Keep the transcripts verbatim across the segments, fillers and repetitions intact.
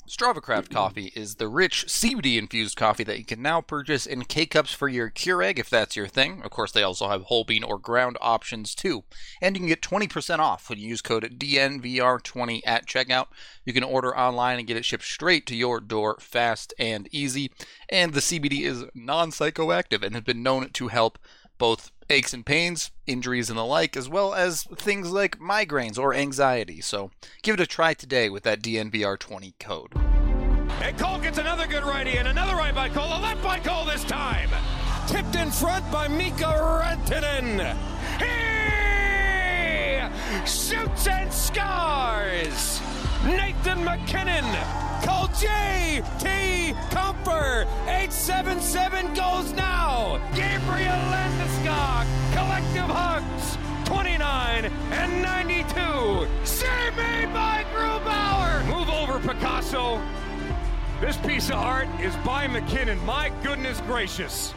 StravaCraft coffee is the rich C B D-infused coffee that you can now purchase in K-Cups for your Keurig, if that's your thing. Of course, they also have whole bean or ground options, too. And you can get twenty percent off when you use code D N V R twenty at checkout. You can order online and get it shipped straight to your door, fast and easy. And the C B D is non-psychoactive and has been known to help both aches and pains, injuries, and the like, as well as things like migraines or anxiety. So give it a try today with that D N V R twenty code. And Cole gets another good righty and another right by Cole, a left by Cole this time. Tipped in front by Mika Rantanen. He shoots and scores. Nathan MacKinnon. Call J T Comfer. eight seven seven goes now. Gabriel Landeskog. Collective hugs. twenty-nine and ninety-two. Save me by Grubauer. Move over, Picasso. This piece of art is by McKinnon. My goodness gracious.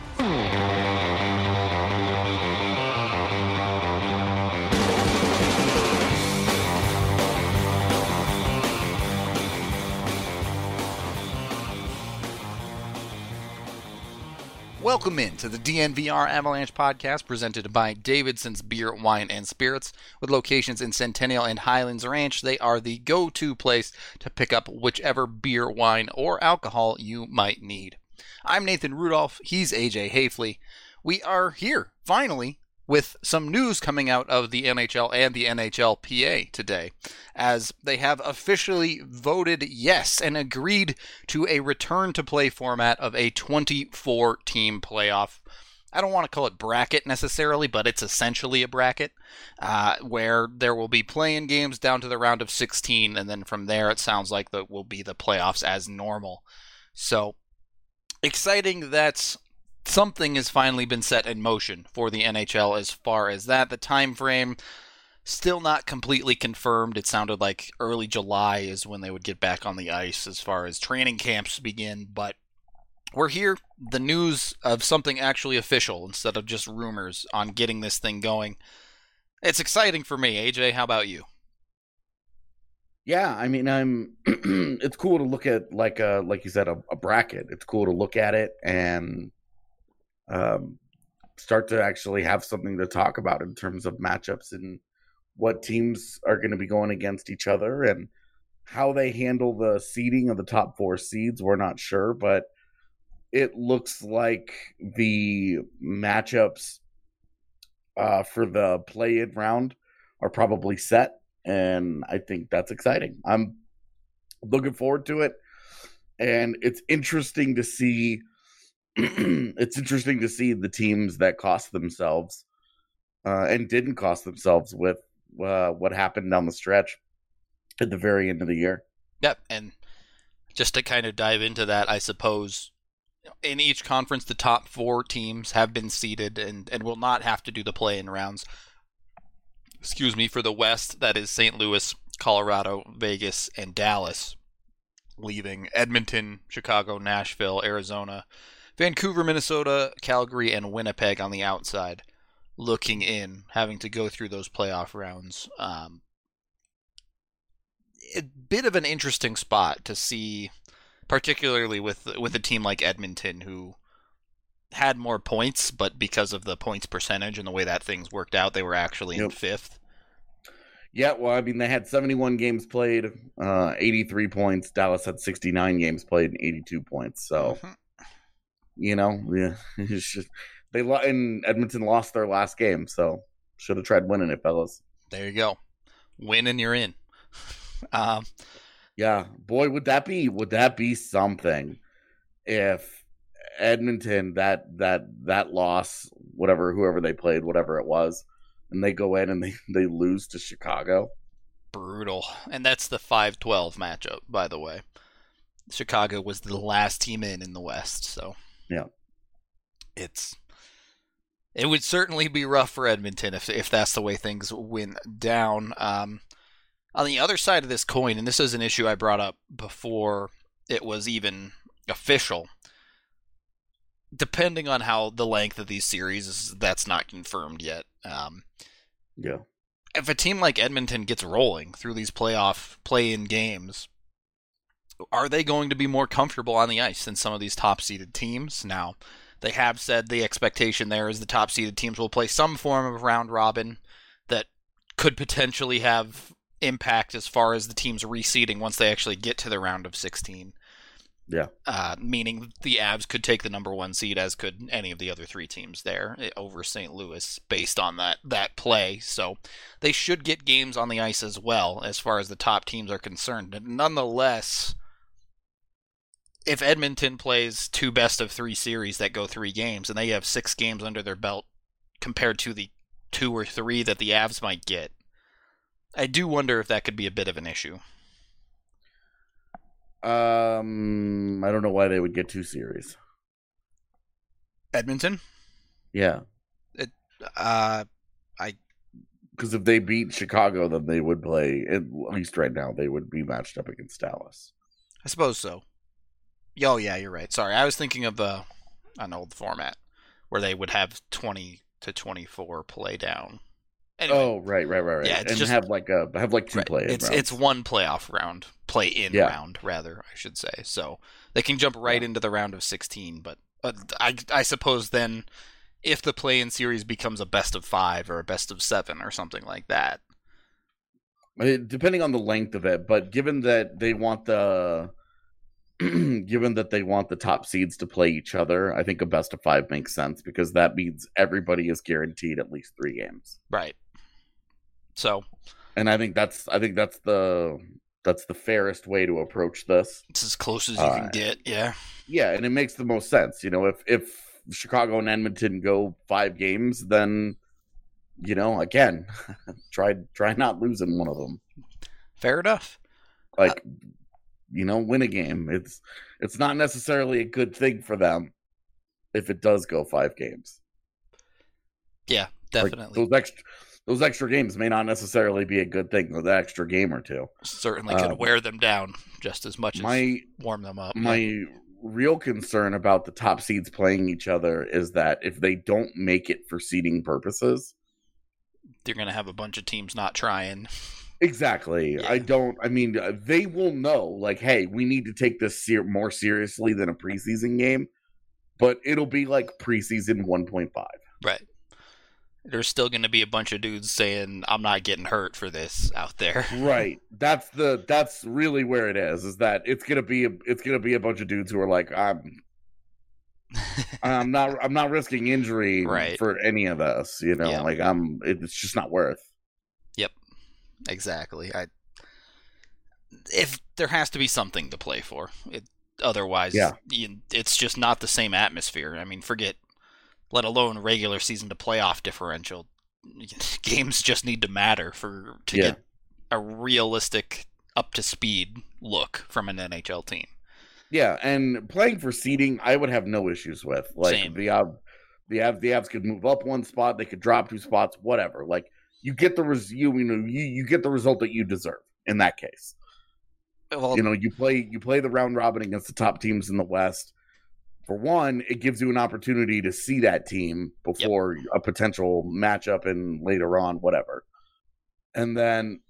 Welcome in to the D N V R Avalanche podcast presented by Davidson's Beer, Wine, and Spirits. With locations in Centennial and Highlands Ranch, they are the go-to place to pick up whichever beer, wine, or alcohol you might need. I'm Nathan Rudolph. He's A J Hafley. We are here, finally, with some news coming out of the N H L and the N H L P A today, as they have officially voted yes and agreed to a return-to-play format of a twenty-four team playoff. I don't want to call it bracket necessarily, but it's essentially a bracket, uh, where there will be play-in games down to the round of sixteen, and then from there it sounds like that will be the playoffs as normal. So, exciting that something has finally been set in motion for the N H L as far as that. The time frame still not completely confirmed. It sounded like early July is when they would get back on the ice as far as training camps begin, but we're here. The news of something actually official instead of just rumors on getting this thing going. It's exciting for me. A J, how about you? Yeah, I mean, I'm. It's cool to look at, like a, like you said, a, a bracket. It's cool to look at it and Um, start to actually have something to talk about in terms of matchups and what teams are going to be going against each other and how they handle the seeding of the top four seeds. We're not sure, but it looks like the matchups uh, for the play-in round are probably set, and I think that's exciting. I'm looking forward to it, and it's interesting to see it's interesting to see the teams that cost themselves uh, and didn't cost themselves with uh, what happened down the stretch at the very end of the year. Yep, and just to kind of dive into that, I suppose in each conference, the top four teams have been seeded and, and will not have to do the play-in rounds. Excuse me, for the West, that is Saint Louis, Colorado, Vegas, and Dallas, leaving Edmonton, Chicago, Nashville, Arizona, Vancouver, Minnesota, Calgary, and Winnipeg on the outside, looking in, having to go through those playoff rounds. Um, a bit of an interesting spot to see, particularly with with a team like Edmonton, who had more points, but because of the points percentage and the way that things worked out, they were actually yep. in fifth. Yeah, well, I mean, they had seventy-one games played, uh, eighty-three points. Dallas had sixty-nine games played and eighty-two points, so... Mm-hmm. You know, yeah, it's just, they lo- and Edmonton lost their last game, so should have tried winning it, fellas. There you go, win and you're in. um, yeah, boy, would that be would that be something if Edmonton that that that loss, whatever whoever they played, whatever it was, and they go in and they, they lose to Chicago. Brutal, and that's the five twelve matchup, by the way. Chicago was the last team in in the West, so. Yeah, it's it would certainly be rough for Edmonton if if that's the way things went down. Um, on the other side of this coin, and this is an issue I brought up before it was even official, depending on how the length of these series is, that's not confirmed yet. Um, yeah, if a team like Edmonton gets rolling through these playoff play-in games, are they going to be more comfortable on the ice than some of these top-seeded teams? Now, they have said the expectation there is the top-seeded teams will play some form of round robin that could potentially have impact as far as the teams reseeding once they actually get to the round of sixteen. Yeah. Uh, meaning the Avs could take the number one seed, as could any of the other three teams there over Saint Louis based on that, that play. So they should get games on the ice as well as far as the top teams are concerned. But nonetheless, if Edmonton plays two best of three series that go three games and they have six games under their belt compared to the two or three that the Avs might get, I do wonder if that could be a bit of an issue. Um, I don't know why they would get two series. Edmonton? Yeah. It, uh, I. Because if they beat Chicago, then they would play, at least right now, they would be matched up against Dallas. I suppose so. Oh, yeah, you're right. Sorry, I was thinking of uh, an old format where they would have twenty to twenty-four play down. Anyway, oh, right, right, right, right. Yeah, it's and just, have like a have like two right, play. It's rounds. it's one playoff round, play in yeah. round rather, I should say. So they can jump right yeah. into the round of sixteen. But uh, I I suppose then, if the play-in series becomes a best of five or a best of seven or something like that, depending on the length of it. But given that they want the given that they want the top seeds to play each other, I think a best of five makes sense because that means everybody is guaranteed at least three games. Right. So, and I think that's I think that's the that's the fairest way to approach this. It's as close as you uh, can get, yeah. Yeah, and it makes the most sense. You know, if if Chicago and Edmonton go five games, then you know, again, try try not losing one of them. Fair enough. Like, uh, you know, win a game. It's it's not necessarily a good thing for them if it does go five games. Yeah, definitely. Like those extra those extra games may not necessarily be a good thing. The extra game or two certainly could um, wear them down just as much my, as warm them up. My yeah. real concern about the top seeds playing each other is that if they don't make it for seeding purposes, they're going to have a bunch of teams not trying. Exactly. Yeah. I don't, I mean, they will know, like, hey, we need to take this ser- more seriously than a preseason game, but it'll be like preseason one point five. Right. There's still going to be a bunch of dudes saying, I'm not getting hurt for this out there. Right. That's the, that's really where it is, is that it's going to be, a, it's going to be a bunch of dudes who are like, I'm, I'm not, I'm not risking injury right. for any of this, you know, yeah. like I'm, it's just not worth. Yep. Exactly. I if there has to be something to play for, it otherwise, yeah. you, it's just not the same atmosphere. I mean, forget, let alone regular season to playoff differential. Games just need to matter for to yeah. get a realistic, up to speed look from an N H L team. Yeah, and playing for seeding, I would have no issues with. Like Same. the uh, the Avs, the Avs could move up one spot, they could drop two spots, whatever. Like. You get the res- you, you know you, you get the result that you deserve in that case. Well, you know you play you play the round robin against the top teams in the West. For one, it gives you an opportunity to see that team before yep. a potential matchup and later on whatever. And then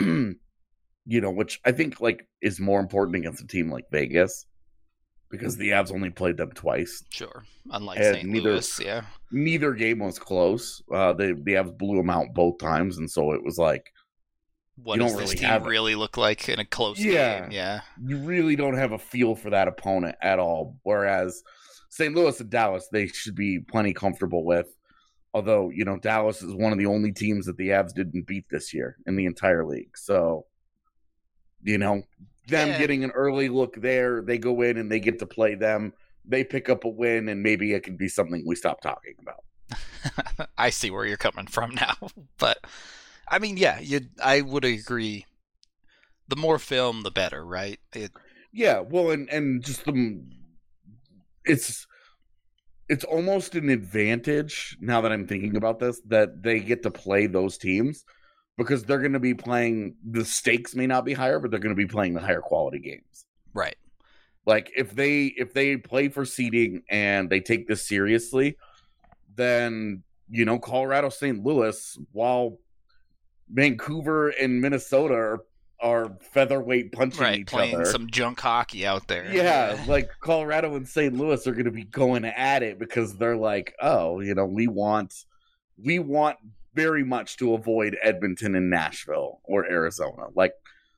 you know, which I think like is more important against a team like Vegas. Because the Avs only played them twice. Sure. Unlike and Saint neither, Louis, yeah. Neither game was close. Uh, they, the Avs blew them out both times, and so it was like, what you does don't this really team have really look like in a close yeah, game? Yeah. You really don't have a feel for that opponent at all. Whereas Saint Louis and Dallas, they should be plenty comfortable with. Although, you know, Dallas is one of the only teams that the Avs didn't beat this year in the entire league. So, you know, them yeah. getting an early look there, they go in and they get to play them. They pick up a win, and maybe it could be something we stop talking about. I see where you're coming from now. But, I mean, yeah, you. I would agree. The more film, the better, right? It, yeah, well, and, and just the... It's... It's almost an advantage, now that I'm thinking about this, that they get to play those teams. Because they're going to be playing, the stakes may not be higher, but they're going to be playing the higher quality games. Right. Like if they if they play for seeding and they take this seriously, then you know Colorado, Saint Louis, while Vancouver and Minnesota are, are featherweight punching right, each playing other. some junk hockey out there. Yeah, like Colorado and Saint Louis are going to be going at it because they're like, oh, you know, we want, we want very much to avoid Edmonton and Nashville or Arizona. Like,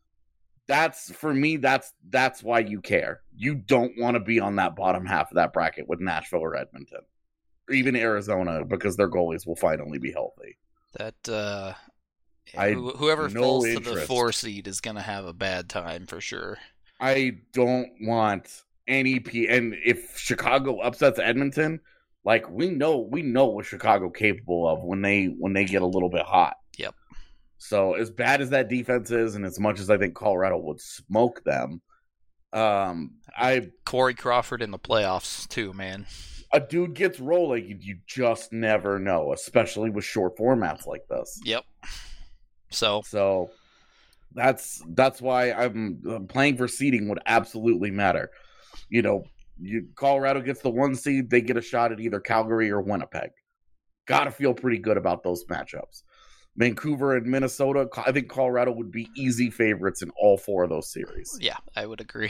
that's for me. That's that's why you care. You don't want to be on that bottom half of that bracket with Nashville or Edmonton, or even Arizona, because their goalies will finally be healthy. That uh, I wh- whoever no falls to the interest. four seed is going to have a bad time for sure. I don't want any P. And if Chicago upsets Edmonton, like we know, we know what Chicago capable of when they when they get a little bit hot. Yep. So as bad as that defense is, and as much as I think Colorado would smoke them, um, I Corey Crawford in the playoffs too, man. a dude gets rolling, you, you just never know, especially with short formats like this. Yep. So So that's that's why I'm uh, playing for seeding would absolutely matter. You know, you, Colorado gets the one seed, they get a shot at either Calgary or Winnipeg. Got to feel pretty good about those matchups. Vancouver and Minnesota, I think Colorado would be easy favorites in all four of those series. yeah, I would agree.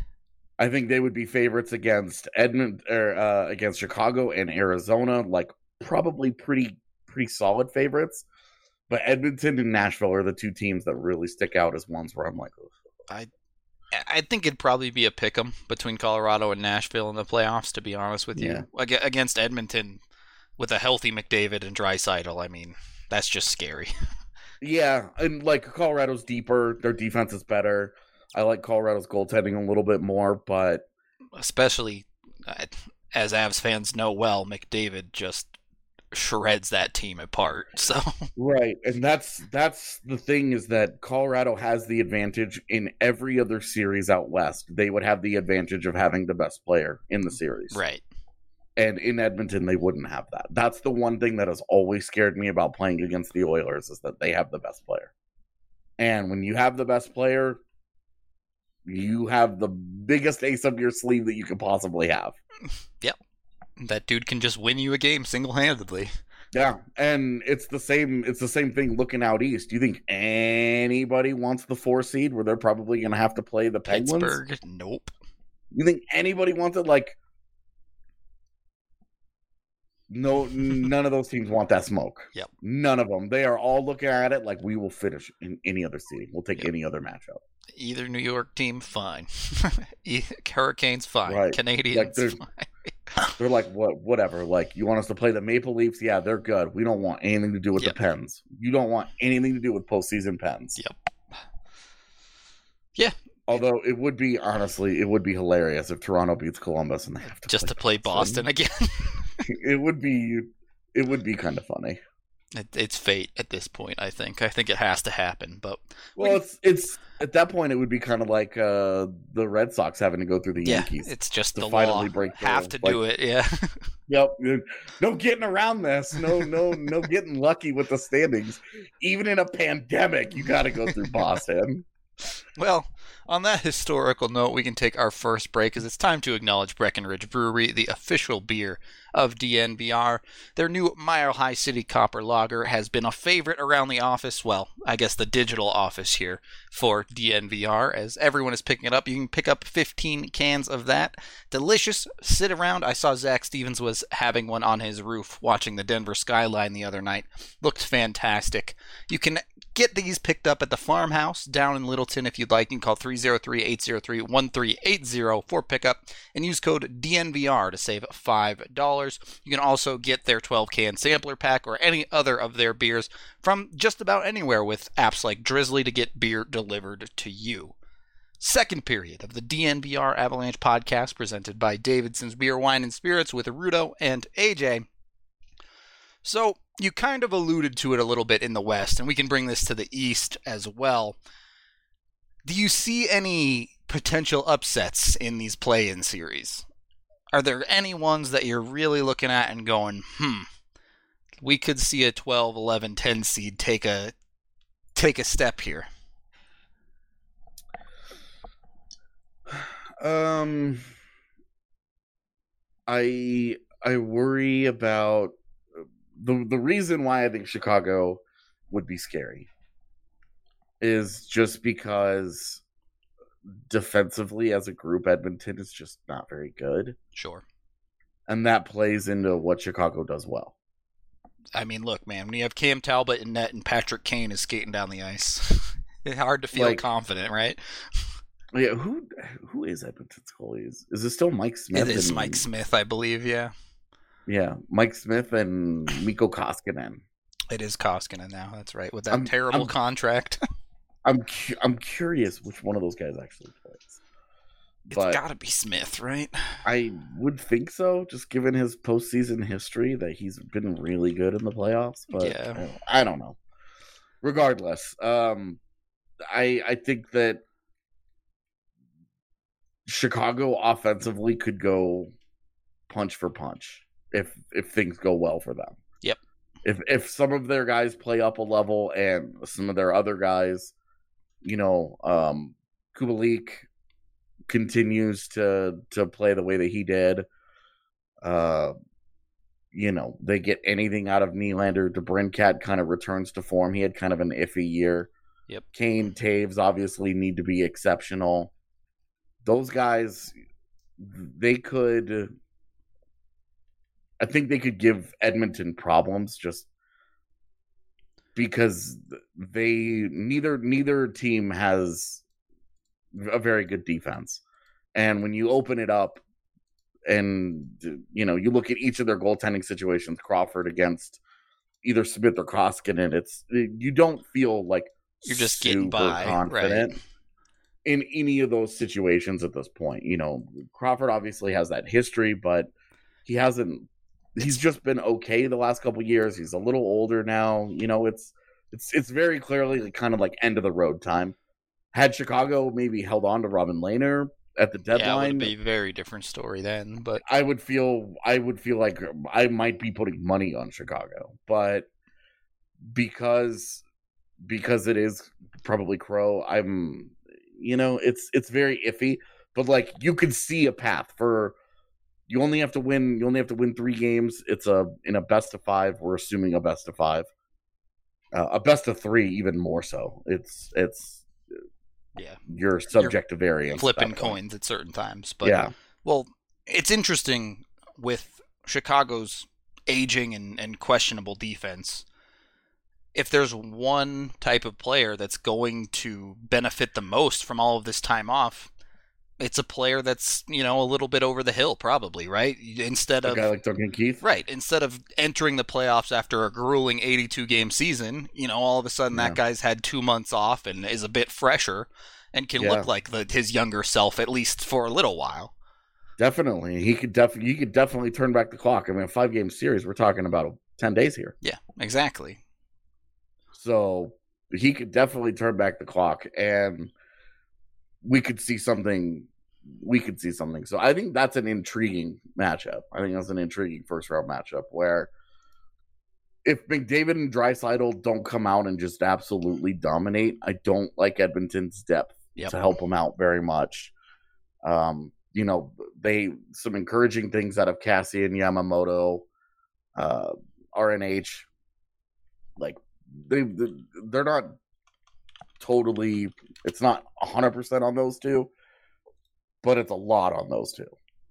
I think they would be favorites against Edmond or uh, against Chicago and Arizona, like probably pretty pretty solid favorites. But Edmonton and Nashville are the two teams that really stick out as ones where I'm like, ugh. I I think it'd probably be a pick'em between Colorado and Nashville in the playoffs, to be honest with you. Yeah. Ag- Against Edmonton with a healthy McDavid and Draisaitl, I mean, that's just scary. Yeah, and like Colorado's deeper, their defense is better. I like Colorado's goaltending a little bit more, but Especially, uh, as Avs fans know well, McDavid just shreds that team apart. So right, and that's that's the thing is that Colorado has the advantage in every other series out west. They would have the advantage of having the best player in the series. right. And in Edmonton, they wouldn't have that. That's the one thing that has always scared me about playing against the Oilers is that they have the best player. And when you have the best player, you have the biggest ace up your sleeve that you could possibly have. Yep. That dude can just win you a game single-handedly. Yeah, and it's the same. It's the same thing looking out east. Do you think anybody wants the four seed where they're probably going to have to play the Penguins? Pittsburgh? Nope. You think anybody wants it? Like, no, none of those teams want that smoke. Yep. None of them. They are all looking at it like we will finish in any other seeding. We'll take Yep. any other matchup. Either New York team, fine. E- Hurricanes, fine. Right. Canadians, Like, there's- fine. They're like, what? Whatever. Like, you want us to play the Maple Leafs? Yeah, they're good. We don't want anything to do with Yep. the Pens. You don't want anything to do with postseason Pens. Yep. Yeah. Although it would be, honestly, it would be hilarious if Toronto beats Columbus and they have to Just play to play Boston again. It would be, it would be kind of funny. It, it's fate at this point, I think. I think it has to happen, but Well, it's it's at that point it would be kind of like uh, the Red Sox having to go through the yeah, Yankees. it's just to the finally law. break Have through. to do it, yeah. Yep. No getting around this. No, no, no getting lucky with the standings. Even in a pandemic, you got to go through Boston. Well, on that historical note, we can take our first break as it's time to acknowledge Breckenridge Brewery, the official beer of D N V R. Their new Mile High City Copper Lager has been a favorite around the office, well, I guess the digital office here for D N V R, as everyone is picking it up. You can pick up fifteen cans of that. Delicious. Sit around. I saw Zach Stevens was having one on his roof watching the Denver skyline the other night. Looked fantastic. You can get these picked up at the farmhouse down in Littleton if you'd like. You can call three oh three, eight oh three, one three eight oh for pickup and use code D N V R to save five dollars. You can also get their twelve-can sampler pack or any other of their beers from just about anywhere with apps like Drizzly to get beer delivered to you. Second period of the D N V R Avalanche podcast presented by Davidson's Beer, Wine, and Spirits with Rudo and A J. So, you kind of alluded to it a little bit in the West, and we can bring this to the East as well. Do you see any potential upsets in these play-in series? Are there any ones that you're really looking at and going, hmm, we could see a twelve, eleven, ten seed take a take a step here? Um, I I worry about the the reason why I think Chicago would be scary is just because defensively as a group, Edmonton is just not very good. Sure. And that plays into what Chicago does well. I mean, look, man, when you have Cam Talbot in net and Patrick Kane is skating down the ice, it's hard to feel Like- confident, right? Yeah, who who is Edmonton's goalie? Is, is it still Mike Smith? It is and- Mike Smith, I believe, yeah. Yeah, Mike Smith and Mikko Koskinen. It is Koskinen now, that's right, with that I'm- terrible I'm- contract. I'm cu- I'm curious which one of those guys actually plays. It's But got to be Smith, right? I would think so, just given his postseason history, that he's been really good in the playoffs. But Yeah. I don't know. Regardless, um, I I think that Chicago offensively could go punch for punch if if things go well for them. Yep. If if some of their guys play up a level and some of their other guys, you know, um, Kubalik continues to to play the way that he did. Uh, you know, they get anything out of Nylander. DeBrincat kind of returns to form. He had kind of an iffy year. Yep. Kane, Taves obviously need to be exceptional. Those guys, they could. I think they could give Edmonton problems just because they neither neither team has a very good defense. And when you open it up and you know, you look at each of their goaltending situations, Crawford against either Smith or Koskinen, it's you don't feel like You're just getting super by, confident right? in any of those situations at this point. You know, Crawford obviously has that history, but he hasn't he's just been okay the last couple of years. He's a little older now. You know, it's it's it's very clearly kind of like end of the road time. Had Chicago maybe held on to Robin Lehner at the Yeah, it deadline, would be a very different story then, but I would feel I would feel like I might be putting money on Chicago, but because because it is probably Crow, I'm you know it's it's very iffy. But like you could see a path for you only have to win you only have to win three games. It's a in a best of five. We're assuming a best of five, uh, a best of three, even more so. It's it's yeah, you're subject to variance, flipping at that point. coins at certain times. But Yeah. well, it's interesting with Chicago's aging and, and questionable defense. If there's one type of player that's going to benefit the most from all of this time off, it's a player that's, you know, a little bit over the hill, probably, right? Instead A of guy like Duncan Keith, right, instead of entering the playoffs after a grueling eighty-two game season, you know, all of a sudden Yeah. that guy's had two months off and is a bit fresher and can Yeah. look like the, his younger self at least for a little while. Definitely, he could definitely he could definitely turn back the clock. I mean, a five game series, we're talking about ten days here, Yeah, exactly. so he could definitely turn back the clock, and we could see something. We could see something. So I think that's an intriguing matchup. I think that's an intriguing first round matchup where if McDavid and Draisaitl don't come out and just absolutely dominate, I don't like Edmonton's depth Yep. to help them out very much. Um, you know, they some encouraging things out of Cassie and Yamamoto, uh, R N H. Like they they're not totally. It's not a hundred percent on those two, but it's a lot on those two.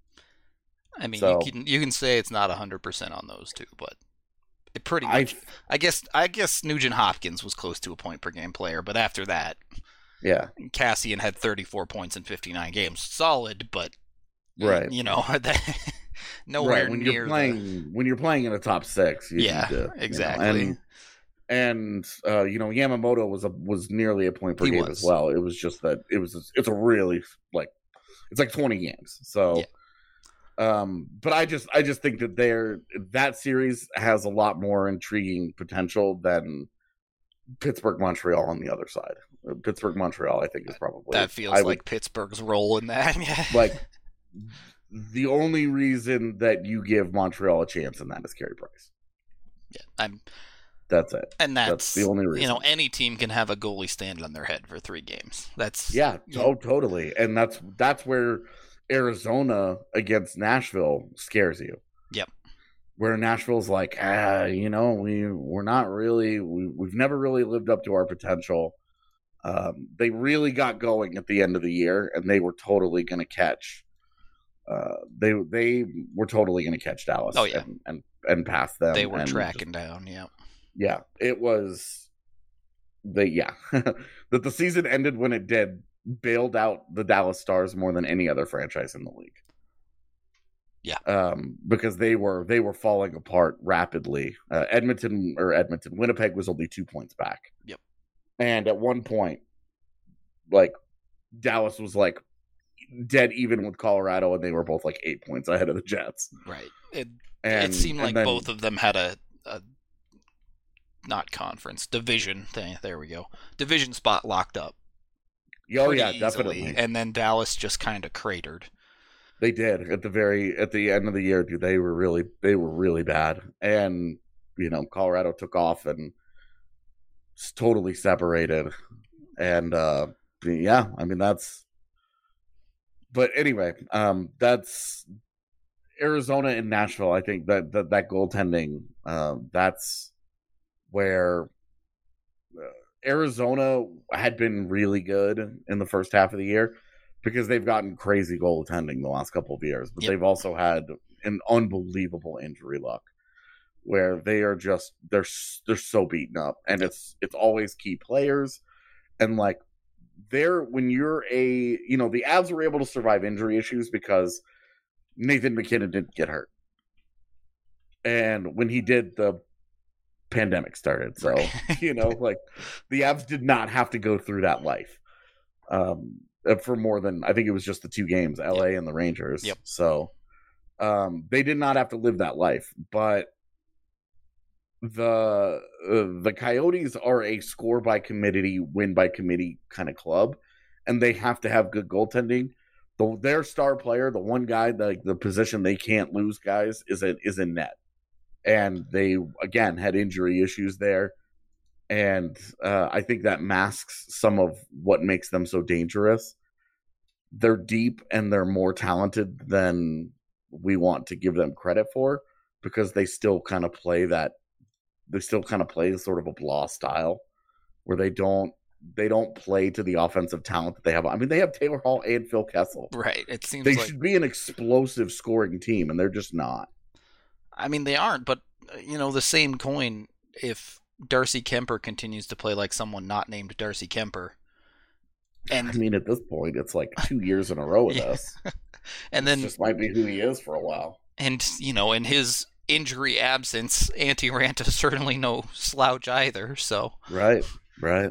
I mean, So- you can you can say it's not one hundred percent on those two, but it pretty I much I guess I guess Nugent Hopkins was close to a point per game player, but after that, yeah, Cassian had thirty-four points in fifty-nine games. Solid, but right. you know, that nowhere right. When near you're the- playing when you're playing in a top six, you Yeah, need to, you know, exactly. and and uh, you know Yamamoto was a was nearly a point per He game was. as well. It was just that it was it's a really like it's like twenty games. So, um, but I just I just think that they're that series has a lot more intriguing potential than Pittsburgh Montreal on the other side. Pittsburgh Montreal, I think, is probably that feels I would- like Pittsburgh's role in that. Yeah. like the only reason that you give Montreal a chance in that is Carey Price. yeah, I'm That's it. and that's, That's the only reason. You know, any team can have a goalie stand on their head for three games. That's Yeah, yeah. oh, totally. And that's that's where Arizona against Nashville scares you. Yep. Where Nashville's like, ah, you know, we we're not really we, we've never really lived up to our potential. Um, they really got going at the end of the year, and they were totally going to catch. Uh, they they were totally going to catch Dallas. Oh, yeah. and, and and pass them. They were and tracking just, down. Yeah, yeah. It was the yeah that the season ended when it did. Bailed out the Dallas Stars more than any other franchise in the league. Yeah, um, because they were they were falling apart rapidly. Uh, Edmonton or Edmonton, Winnipeg was only two points back. Yep, and at one point, like Dallas was like dead even with Colorado, and they were both like eight points ahead of the Jets. Right. It and, it seemed like then, both of them had a, a not conference division thing. There we go. Division spot locked up. Oh yeah, easily, definitely. And then Dallas just kind of cratered. They did at the very at the end of the year, dude. They were really they were really bad, and you know Colorado took off and totally separated, and uh, yeah, I mean that's. But anyway, um, that's Arizona and Nashville. I think that that that goaltending, uh, that's where. Uh, Arizona had been really good in the first half of the year because they've gotten crazy goaltending the last couple of years, but yep. they've also had an unbelievable injury luck where they are just they're they're so beaten up, and it's it's always key players, and like they're when you're a you know the Avs were able to survive injury issues because Nathan MacKinnon didn't get hurt, and when he did, the pandemic started, so right. you know like the Avs did not have to go through that life um for more than I think it was just the two games, L A yep. and the Rangers. Yep. So um they did not have to live that life, but the uh, the Coyotes are a score by committee, win by committee kind of club, and they have to have good goaltending. The, their star player, the one guy, the the position they can't lose, guys, is a, is in net. And they, again, had injury issues there. And uh, I think that masks some of what makes them so dangerous. They're deep and they're more talented than we want to give them credit for because they still kind of play that, they still kind of play sort of a blah style where they don't, they don't play to the offensive talent that they have. I mean, they have Taylor Hall and Phil Kessel. Right. It seems they like... should be an explosive scoring team, and they're just not. I mean, they aren't, but, you know, the same coin, if Darcy Kemper continues to play like someone not named Darcy Kemper. And I mean, at this point, it's like two years in a row with yeah. us. And then this just might be who he is for a while. And, you know, in his injury absence, Antti Raanta is certainly no slouch either, so. Right, right.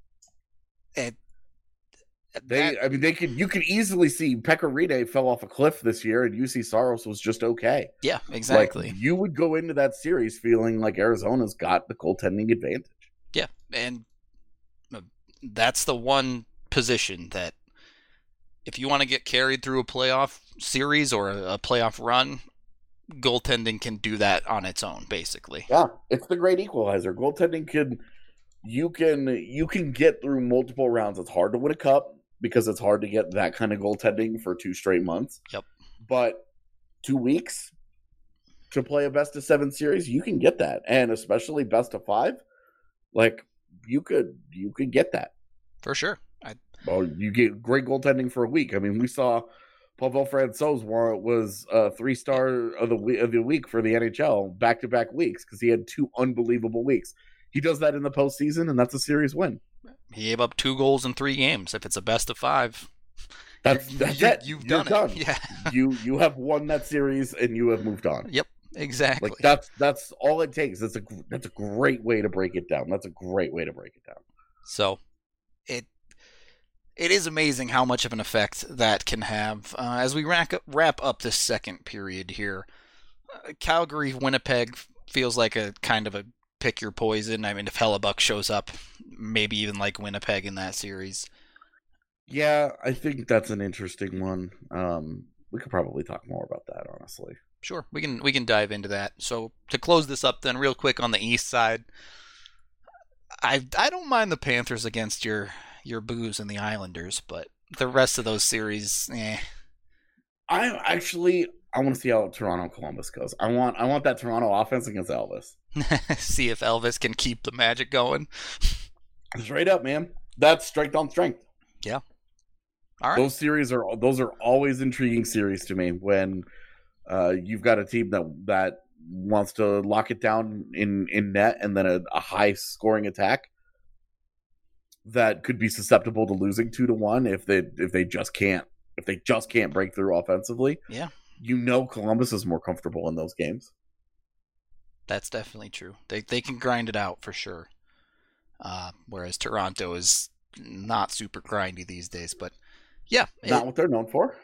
And They, that, I mean, they could. You could easily see Pekka Rinne fell off a cliff this year, and U C Saros was just okay. Yeah, exactly. Like, you would go into that series feeling like Arizona's got the goaltending advantage. Yeah, and that's the one position that if you want to get carried through a playoff series or a playoff run, goaltending can do that on its own, basically. Yeah, it's the great equalizer. Goaltending can, you can, you can get through multiple rounds. It's hard to win a cup, because it's hard to get that kind of goaltending for two straight months. Yep. But two weeks to play a best of seven series, you can get that. And especially best of five, like you could you could get that. For sure. I... Well, you get great goaltending for a week. I mean, we saw Pavel Francouz was a three-star of the week, of the week for the N H L back-to-back weeks because he had two unbelievable weeks. He does that in the postseason, and that's a series win. He gave up two goals in three games. If it's a best of five, that's, that's you, it. You've You're done, done it. Yeah. you you have won that series and you have moved on. Yep, exactly. Like that's that's all it takes. That's a that's a great way to break it down. That's a great way to break it down. So, it it is amazing how much of an effect that can have. Uh, as we wrap up, wrap up this second period here, uh, Calgary Winnipeg feels like a kind of a pick your poison. I mean, if Hellebuck shows up, maybe even like Winnipeg in that series. Yeah, I think that's an interesting one. Um, we could probably talk more about that, honestly. Sure, we can we can dive into that. So to close this up, then, real quick on the East side, I I don't mind the Panthers against your your Boos and the Islanders, but the rest of those series, eh. I actually I want to see how Toronto Columbus goes. I want I want that Toronto offense against Elvis. See if Elvis can keep the magic going. Straight up, man. that's strength on strength. Yeah. All right. Those series are those are always intriguing series to me when uh, you've got a team that that wants to lock it down in, in net and then a, a high scoring attack that could be susceptible to losing two to one if they if they just can't if they just can't break through offensively. Yeah. You know Columbus is more comfortable in those games. That's definitely true. They they can grind it out for sure. Uh, whereas Toronto is not super grindy these days, but yeah, not it, what they're known for.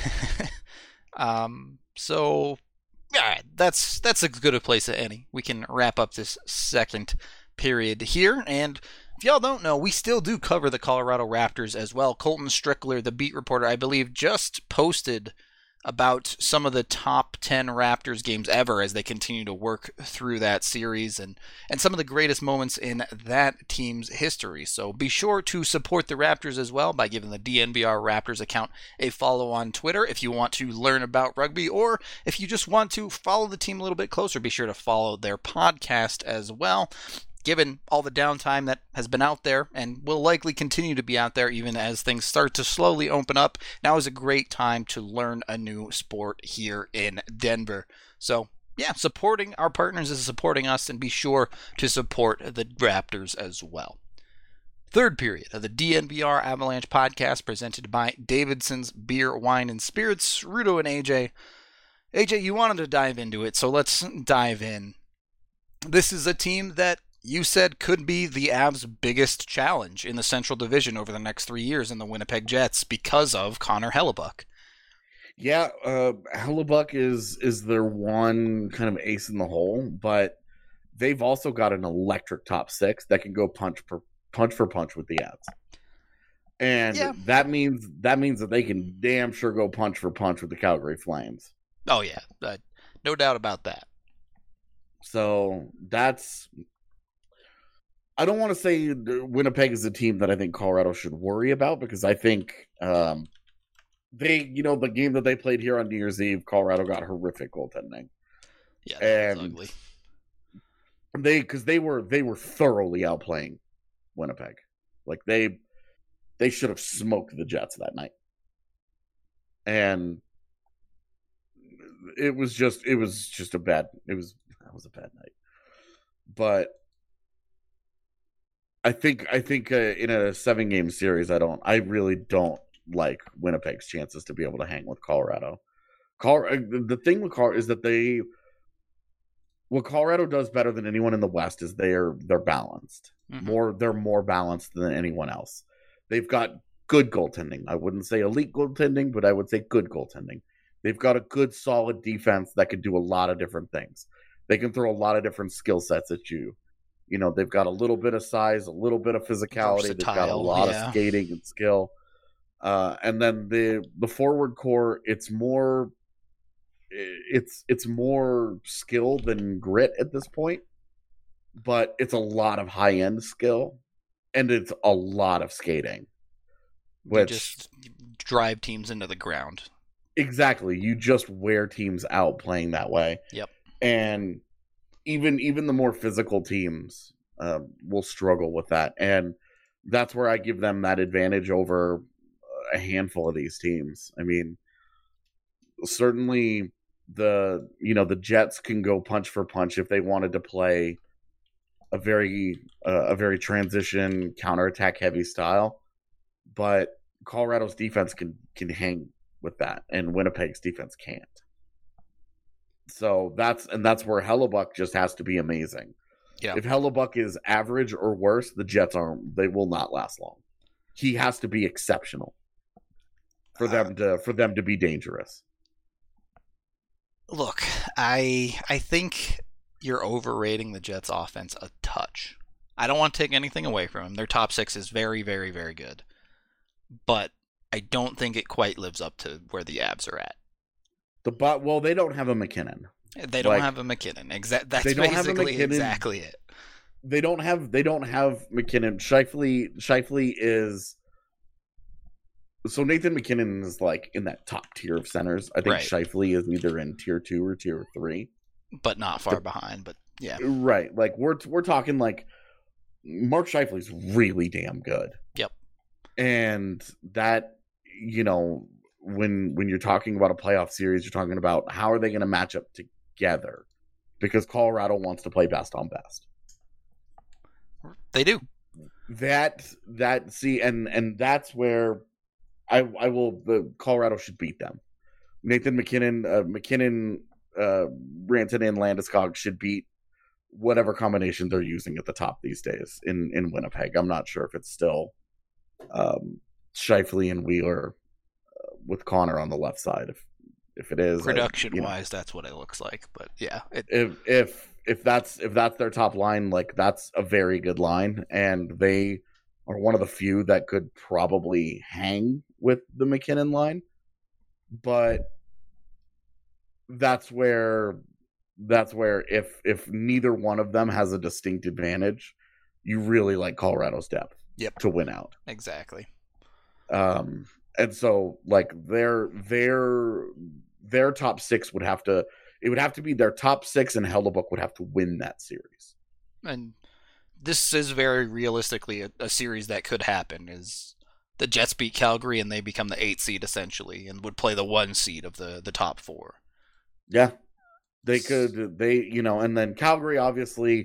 um. So yeah, that's that's as good a place as any. We can wrap up this second period here, and if y'all don't know, we still do cover the Colorado Raptors as well. Colton Strickler, the beat reporter, I believe, just posted about some of the top ten Raptors games ever as they continue to work through that series and, and some of the greatest moments in that team's history. So be sure to support the Raptors as well by giving the D N V R Raptors account a follow on Twitter if you want to learn about rugby, or if you just want to follow the team a little bit closer, be sure to follow their podcast as well. Given all the downtime that has been out there and will likely continue to be out there even as things start to slowly open up, now is a great time to learn a new sport here in Denver. So, yeah, supporting our partners is supporting us, and be sure to support the Raptors as well. Third period of the D N V R Avalanche podcast presented by Davidson's Beer, Wine, and Spirits. Rudo and A J. A J, you wanted to dive into it, so let's dive in. This is a team that you said could be the Avs' biggest challenge in the Central Division over the next three years in the Winnipeg Jets because of Connor Hellebuyck. Yeah, uh, Hellebuyck is is their one kind of ace in the hole, but they've also got an electric top six that can go punch for punch for punch with the Avs, and yeah. that means that means that they can damn sure go punch for punch with the Calgary Flames. Oh yeah, uh, no doubt about that. So that's. I don't want to say Winnipeg is a team that I think Colorado should worry about, because I think um, they, you know, the game that they played here on New Year's Eve, Colorado got horrific goaltending. Yeah, that was and ugly. They, because they were they were thoroughly outplaying Winnipeg. Like they they should have smoked the Jets that night, and it was just it was just a bad it was that was a bad night, but. I think I think uh, in a seven game series, I don't I really don't like Winnipeg's chances to be able to hang with Colorado. Col- the thing with Colorado is that they what Colorado does better than anyone in the West is they're they're balanced. Mm-hmm. More they're more balanced than anyone else. They've got good goaltending. I wouldn't say elite goaltending, but I would say good goaltending. They've got a good solid defense that can do a lot of different things. They can throw a lot of different skill sets at you. You know, they've got a little bit of size, a little bit of physicality. Versatile, they've got a lot yeah. of skating and skill. Uh, and then the the forward core, it's more it's it's more skill than grit at this point. But it's a lot of high end skill, and it's a lot of skating. Which you just drive teams into the ground. Exactly. You just wear teams out playing that way. Yep. And Even even the more physical teams uh, will struggle with that, and that's where I give them that advantage over a handful of these teams. I mean, certainly the you know the Jets can go punch for punch if they wanted to play a very uh, a very transition counterattack heavy style, but Colorado's defense can can hang with that, and Winnipeg's defense can't. So that's and that's where Hellebuyck just has to be amazing. Yeah. If Hellebuyck is average or worse, the Jets aren't. They will not last long. He has to be exceptional for them uh, to for them to be dangerous. Look, I I think you're overrating the Jets' offense a touch. I don't want to take anything away from them. Their top six is very, very, very good, but I don't think it quite lives up to where the Avs are at. The but well, they don't have a McKinnon. They don't like, have a McKinnon. Exactly. That's they don't basically have a McKinnon. Exactly it. They don't have. They don't have McKinnon. Scheifele. Scheifele is. So Nathan McKinnon is like in that top tier of centers. I think right. Scheifele is either in tier two or tier three, but not far the, behind. But yeah, right. Like we're we're talking like Mark Scheifele is really damn good. Yep. And that, you know, when when you're talking about a playoff series, you're talking about how are they going to match up together, because Colorado wants to play best on best. They do. That that see and and that's where I I will the Colorado should beat them. Nathan MacKinnon, uh, McKinnon, uh, Rantanen, and Landeskog should beat whatever combination they're using at the top these days in, in Winnipeg. I'm not sure if it's still um, Scheifele and Wheeler uh, with Connor on the left side. If if it is production I, you know, wise, that's what it looks like. But yeah, it, if if if that's if that's their top line, like that's a very good line, and they are one of the few that could probably hang with the McKinnon line. But that's where that's where if if neither one of them has a distinct advantage, you really like Colorado's depth yep. to win out. Exactly. Um, and so like their their their top six would have to it would have to be their top six, and Hellebuyck would have to win that series. And this is very realistically a, a series that could happen. Is the Jets beat Calgary and they become the eight seed essentially, and would play the one seed of the, the top four. Yeah, they could. They you know, and then Calgary obviously.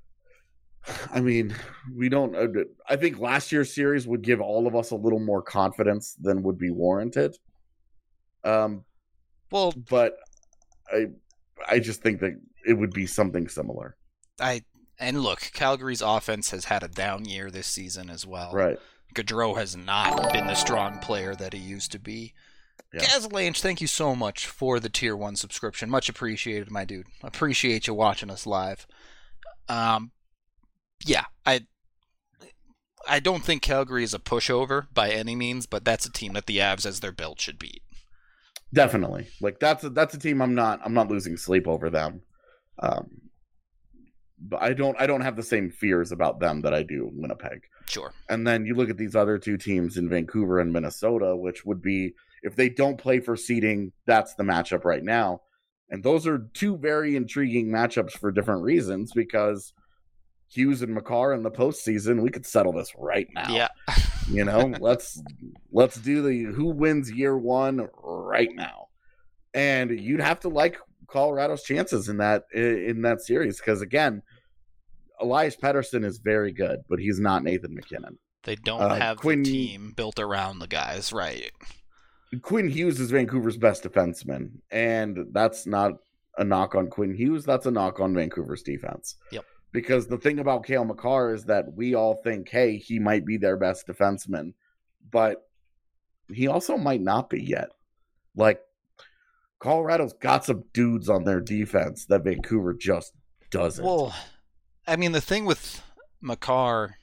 I mean, we don't. I think last year's series would give all of us a little more confidence than would be warranted. Um, well, but I, I just think that it would be something similar. I and look, Calgary's offense has had a down year this season as well. Right. Gaudreau has not been the strong player that he used to be. Yeah. Gaz Lange, thank you so much for the tier one subscription. Much appreciated, my dude. Appreciate you watching us live. Um, yeah, I I don't think Calgary is a pushover by any means, but that's a team that the Avs, as they're built, should beat. Definitely, like that's a, that's a team I'm not I'm not losing sleep over them. Um, but I don't I don't have the same fears about them that I do Winnipeg. Sure. And then you look at these other two teams in Vancouver and Minnesota, which would be, if they don't play for seeding, that's the matchup right now. And those are two very intriguing matchups for different reasons, because Hughes and Makar in the postseason, we could settle this right now. Yeah. You know, let's let's do the who wins year one right now. And you'd have to like Colorado's chances in that in that series, because again, Elias Pettersson is very good, but he's not Nathan MacKinnon. They don't uh, have Quinn, the team built around the guys, right? Quinn Hughes is Vancouver's best defenseman, and that's not a knock on Quinn Hughes. That's a knock on Vancouver's defense. Yep. Because the thing about Cale Makar is that we all think, hey, he might be their best defenseman, but he also might not be yet. Like, Colorado's got some dudes on their defense that Vancouver just doesn't. Well, I mean, the thing with Makar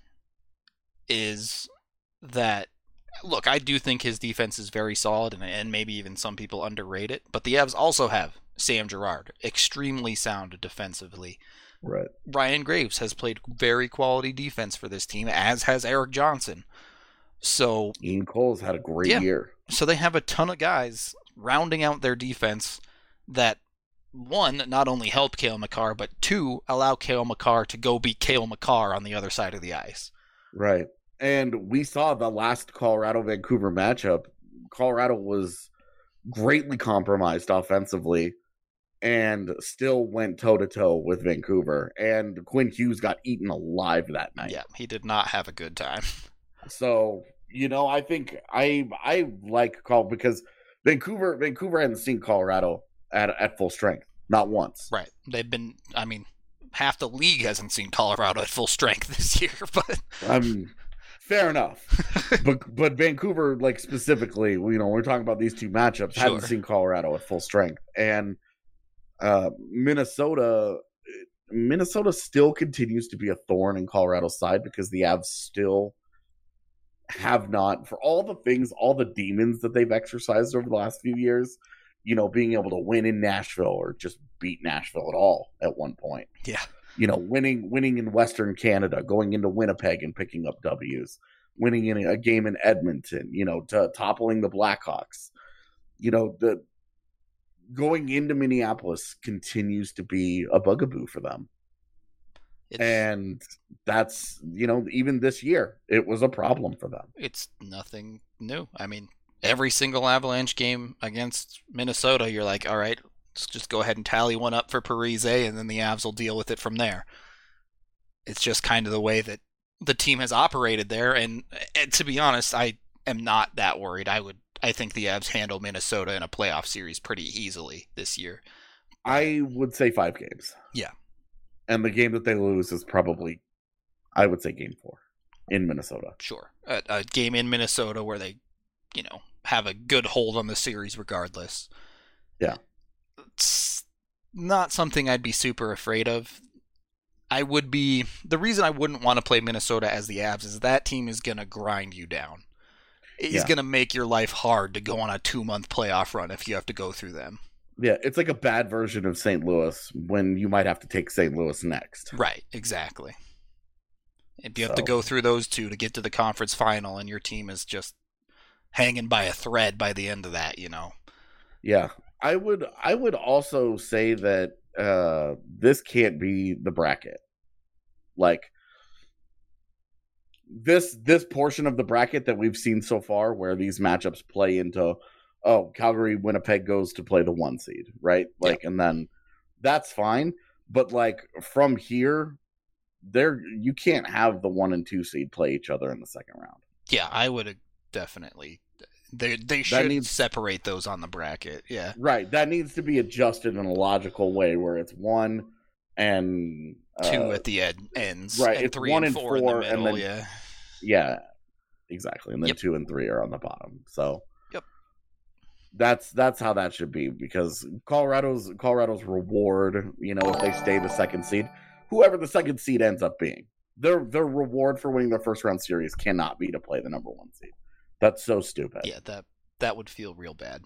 is that, look, I do think his defense is very solid, and, and maybe even some people underrate it, but the Avs also have Sam Girard, extremely sound defensively. Right. Ryan Graves has played very quality defense for this team, as has Eric Johnson. So Ian Cole's had a great yeah, year. So they have a ton of guys rounding out their defense that, one, not only help Cale Makar, but two, allow Cale Makar to go be Cale Makar on the other side of the ice. Right. And we saw the last Colorado-Vancouver matchup. Colorado was greatly compromised offensively and still went toe-to-toe with Vancouver. And Quinn Hughes got eaten alive that night. Yeah, he did not have a good time. So, you know, I think I I like Col because Vancouver Vancouver hadn't seen Colorado at at full strength, not once. Right. They've been, I mean, half the league hasn't seen Colorado at full strength this year, but um fair enough. but but Vancouver, like specifically, you know, we're talking about these two matchups, Sure. hadn't seen Colorado at full strength. And uh Minnesota Minnesota still continues to be a thorn in Colorado's side because the Avs still have not, for all the things, all the demons that they've exercised over the last few years, you know, being able to win in Nashville or just beat Nashville at all at one point. Yeah. You know, winning winning in Western Canada, going into Winnipeg and picking up W's, winning in a game in Edmonton, you know, to toppling the Blackhawks. You know, the going into Minneapolis continues to be a bugaboo for them. It's, and that's, you know, even this year, it was a problem for them. It's nothing new. I mean, every single Avalanche game against Minnesota, you're like, all right, let's just go ahead and tally one up for Parise, and then the Avs will deal with it from there. It's just kind of the way that the team has operated there, and, and to be honest, I am not that worried. I would, I think the Avs handle Minnesota in a playoff series pretty easily this year. I would say five games. Yeah. And the game that they lose is probably, I would say, game four in Minnesota. Sure. A, a game in Minnesota where they, you know, have a good hold on the series regardless. Yeah. It's not something I'd be super afraid of. I would be, the reason I wouldn't want to play Minnesota as the Avs is that team is going to grind you down. It's Yeah. going to make your life hard to go on a two-month playoff run if you have to go through them. Yeah, it's like a bad version of Saint Louis when you might have to take Saint Louis next. Right, exactly. If you have to So- go through those two to get to the conference final and your team is just hanging by a thread by the end of that, you know. Yeah. I would I would also say that uh this can't be the bracket. Like this this portion of the bracket that we've seen so far where these matchups play into, oh, Calgary Winnipeg goes to play the one seed, right? Like and then that's fine, but like from here there you can't have the one and two seed play each other in the second round. Yeah, I would definitely. They they should needs- separate those on the bracket. Yeah, Right, that needs to be adjusted in a logical way where it's one and uh, two at the end ends. right, and it's three one and and four, in four, the and middle. then- yeah, yeah, exactly, and then Yep. two and three are on the bottom. So Yep. that's that's how that should be because Colorado's Colorado's reward, you know, if they stay the second seed, whoever the second seed ends up being, their their reward for winning their first round series cannot be to play the number one seed. That's so stupid. yeah. That that would feel real bad.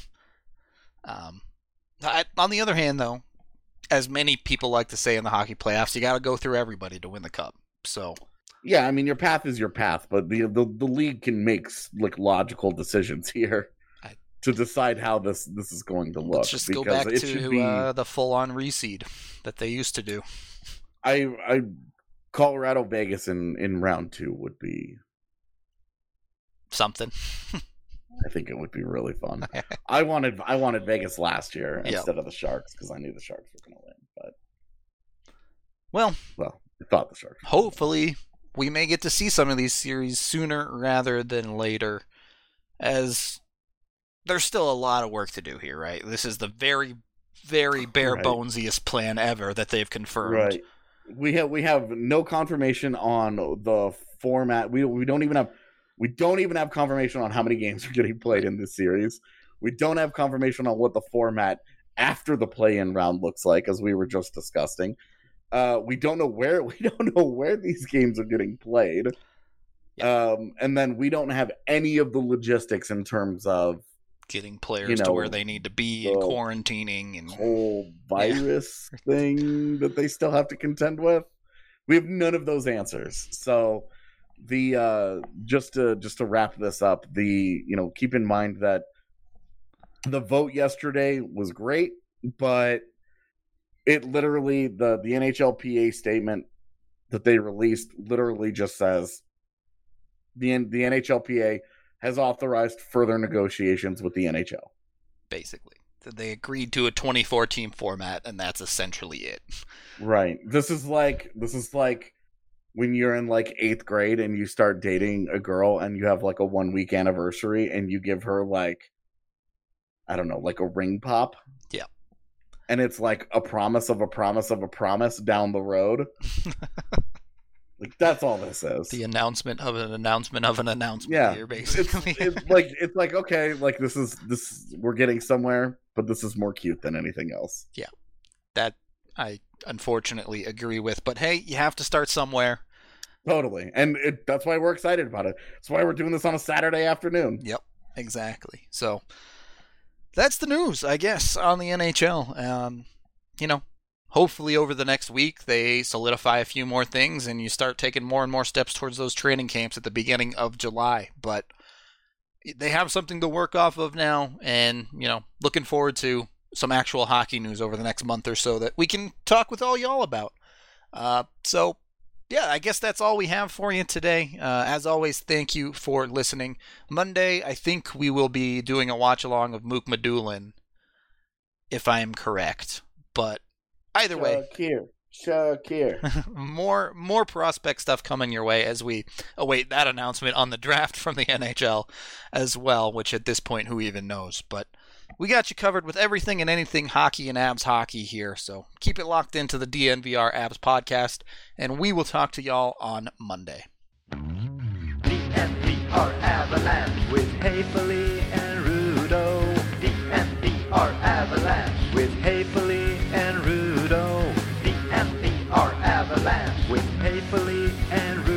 Um, I, on the other hand, though, as many people like to say in the hockey playoffs, you got to go through everybody to win the cup. So Yeah, I mean your path is your path, but the the, the league can make like logical decisions here I- to decide how this this is going to look. let's just go because back it should to be, uh, the full-on reseed that they used to do. I I Colorado Vegas in in round two would be. Something. I think it would be really fun. I wanted I wanted Vegas last year Yep. instead of the Sharks because I knew the Sharks were going to win. But Well, well, I thought the Sharks. were gonna win. hopefully we may get to see some of these series sooner rather than later, as there's still a lot of work to do here, right? This is the very, very bare Right. bonesiest plan ever that they've confirmed. Right. We have we have no confirmation on the format. We we don't even have we don't even have confirmation on how many games are getting played in this series. We don't have confirmation on what the format after the play-in round looks like, as we were just discussing. Uh, we don't know where we don't know where these games are getting played. Um, and then we don't have any of the logistics in terms of Getting players You to know, where they need to be and the quarantining and whole virus thing that they still have to contend with. We have none of those answers. So the uh just to just to wrap this up, the you know, keep in mind that the vote yesterday was great, but it literally the the N H L P A statement that they released literally just says the N- the N H L P A has authorized further negotiations with the N H L. basically. They agreed to a twenty-four team format, and that's essentially it. Right. This is like this is like when you're in like eighth grade and you start dating a girl and you have like a one week anniversary and you give her like I don't know, like a ring pop. Yeah. And it's like a promise of a promise of a promise down the road. Like that's all this is. The announcement of an announcement of an announcement Yeah. here, It's, basically. it's like it's like okay, like this is this we're getting somewhere, but this is more cute than anything else. That I unfortunately agree with. But hey, you have to start somewhere. Totally. And it, that's why we're excited about it. That's why we're doing this on a Saturday afternoon. Yep, exactly. So that's the news, I guess, on the N H L. Um, you know, hopefully over the next week they solidify a few more things and you start taking more and more steps towards those training camps at the beginning of July. But they have something to work off of now, and, you know, looking forward to some actual hockey news over the next month or so that we can talk with all y'all about. Uh, so, yeah, I guess that's all we have for you today. Uh, as always, thank you for listening. Monday, I think we will be doing a watch-along of Mook Madulin, if I am correct. But either way... Shakir. Shakir. more more prospect stuff coming your way as we await that announcement on the draft from the N H L as well, which at this point, who even knows? But we got you covered with everything and anything hockey and Abs hockey here, so keep it locked into the D N V R Abs podcast, and we will talk to y'all on Monday. D N V R Avalanche with Haefele and Rudo. D N V R Avalanche with Haefele and Rudo. D N V R Avalanche with Haefele and Rudo.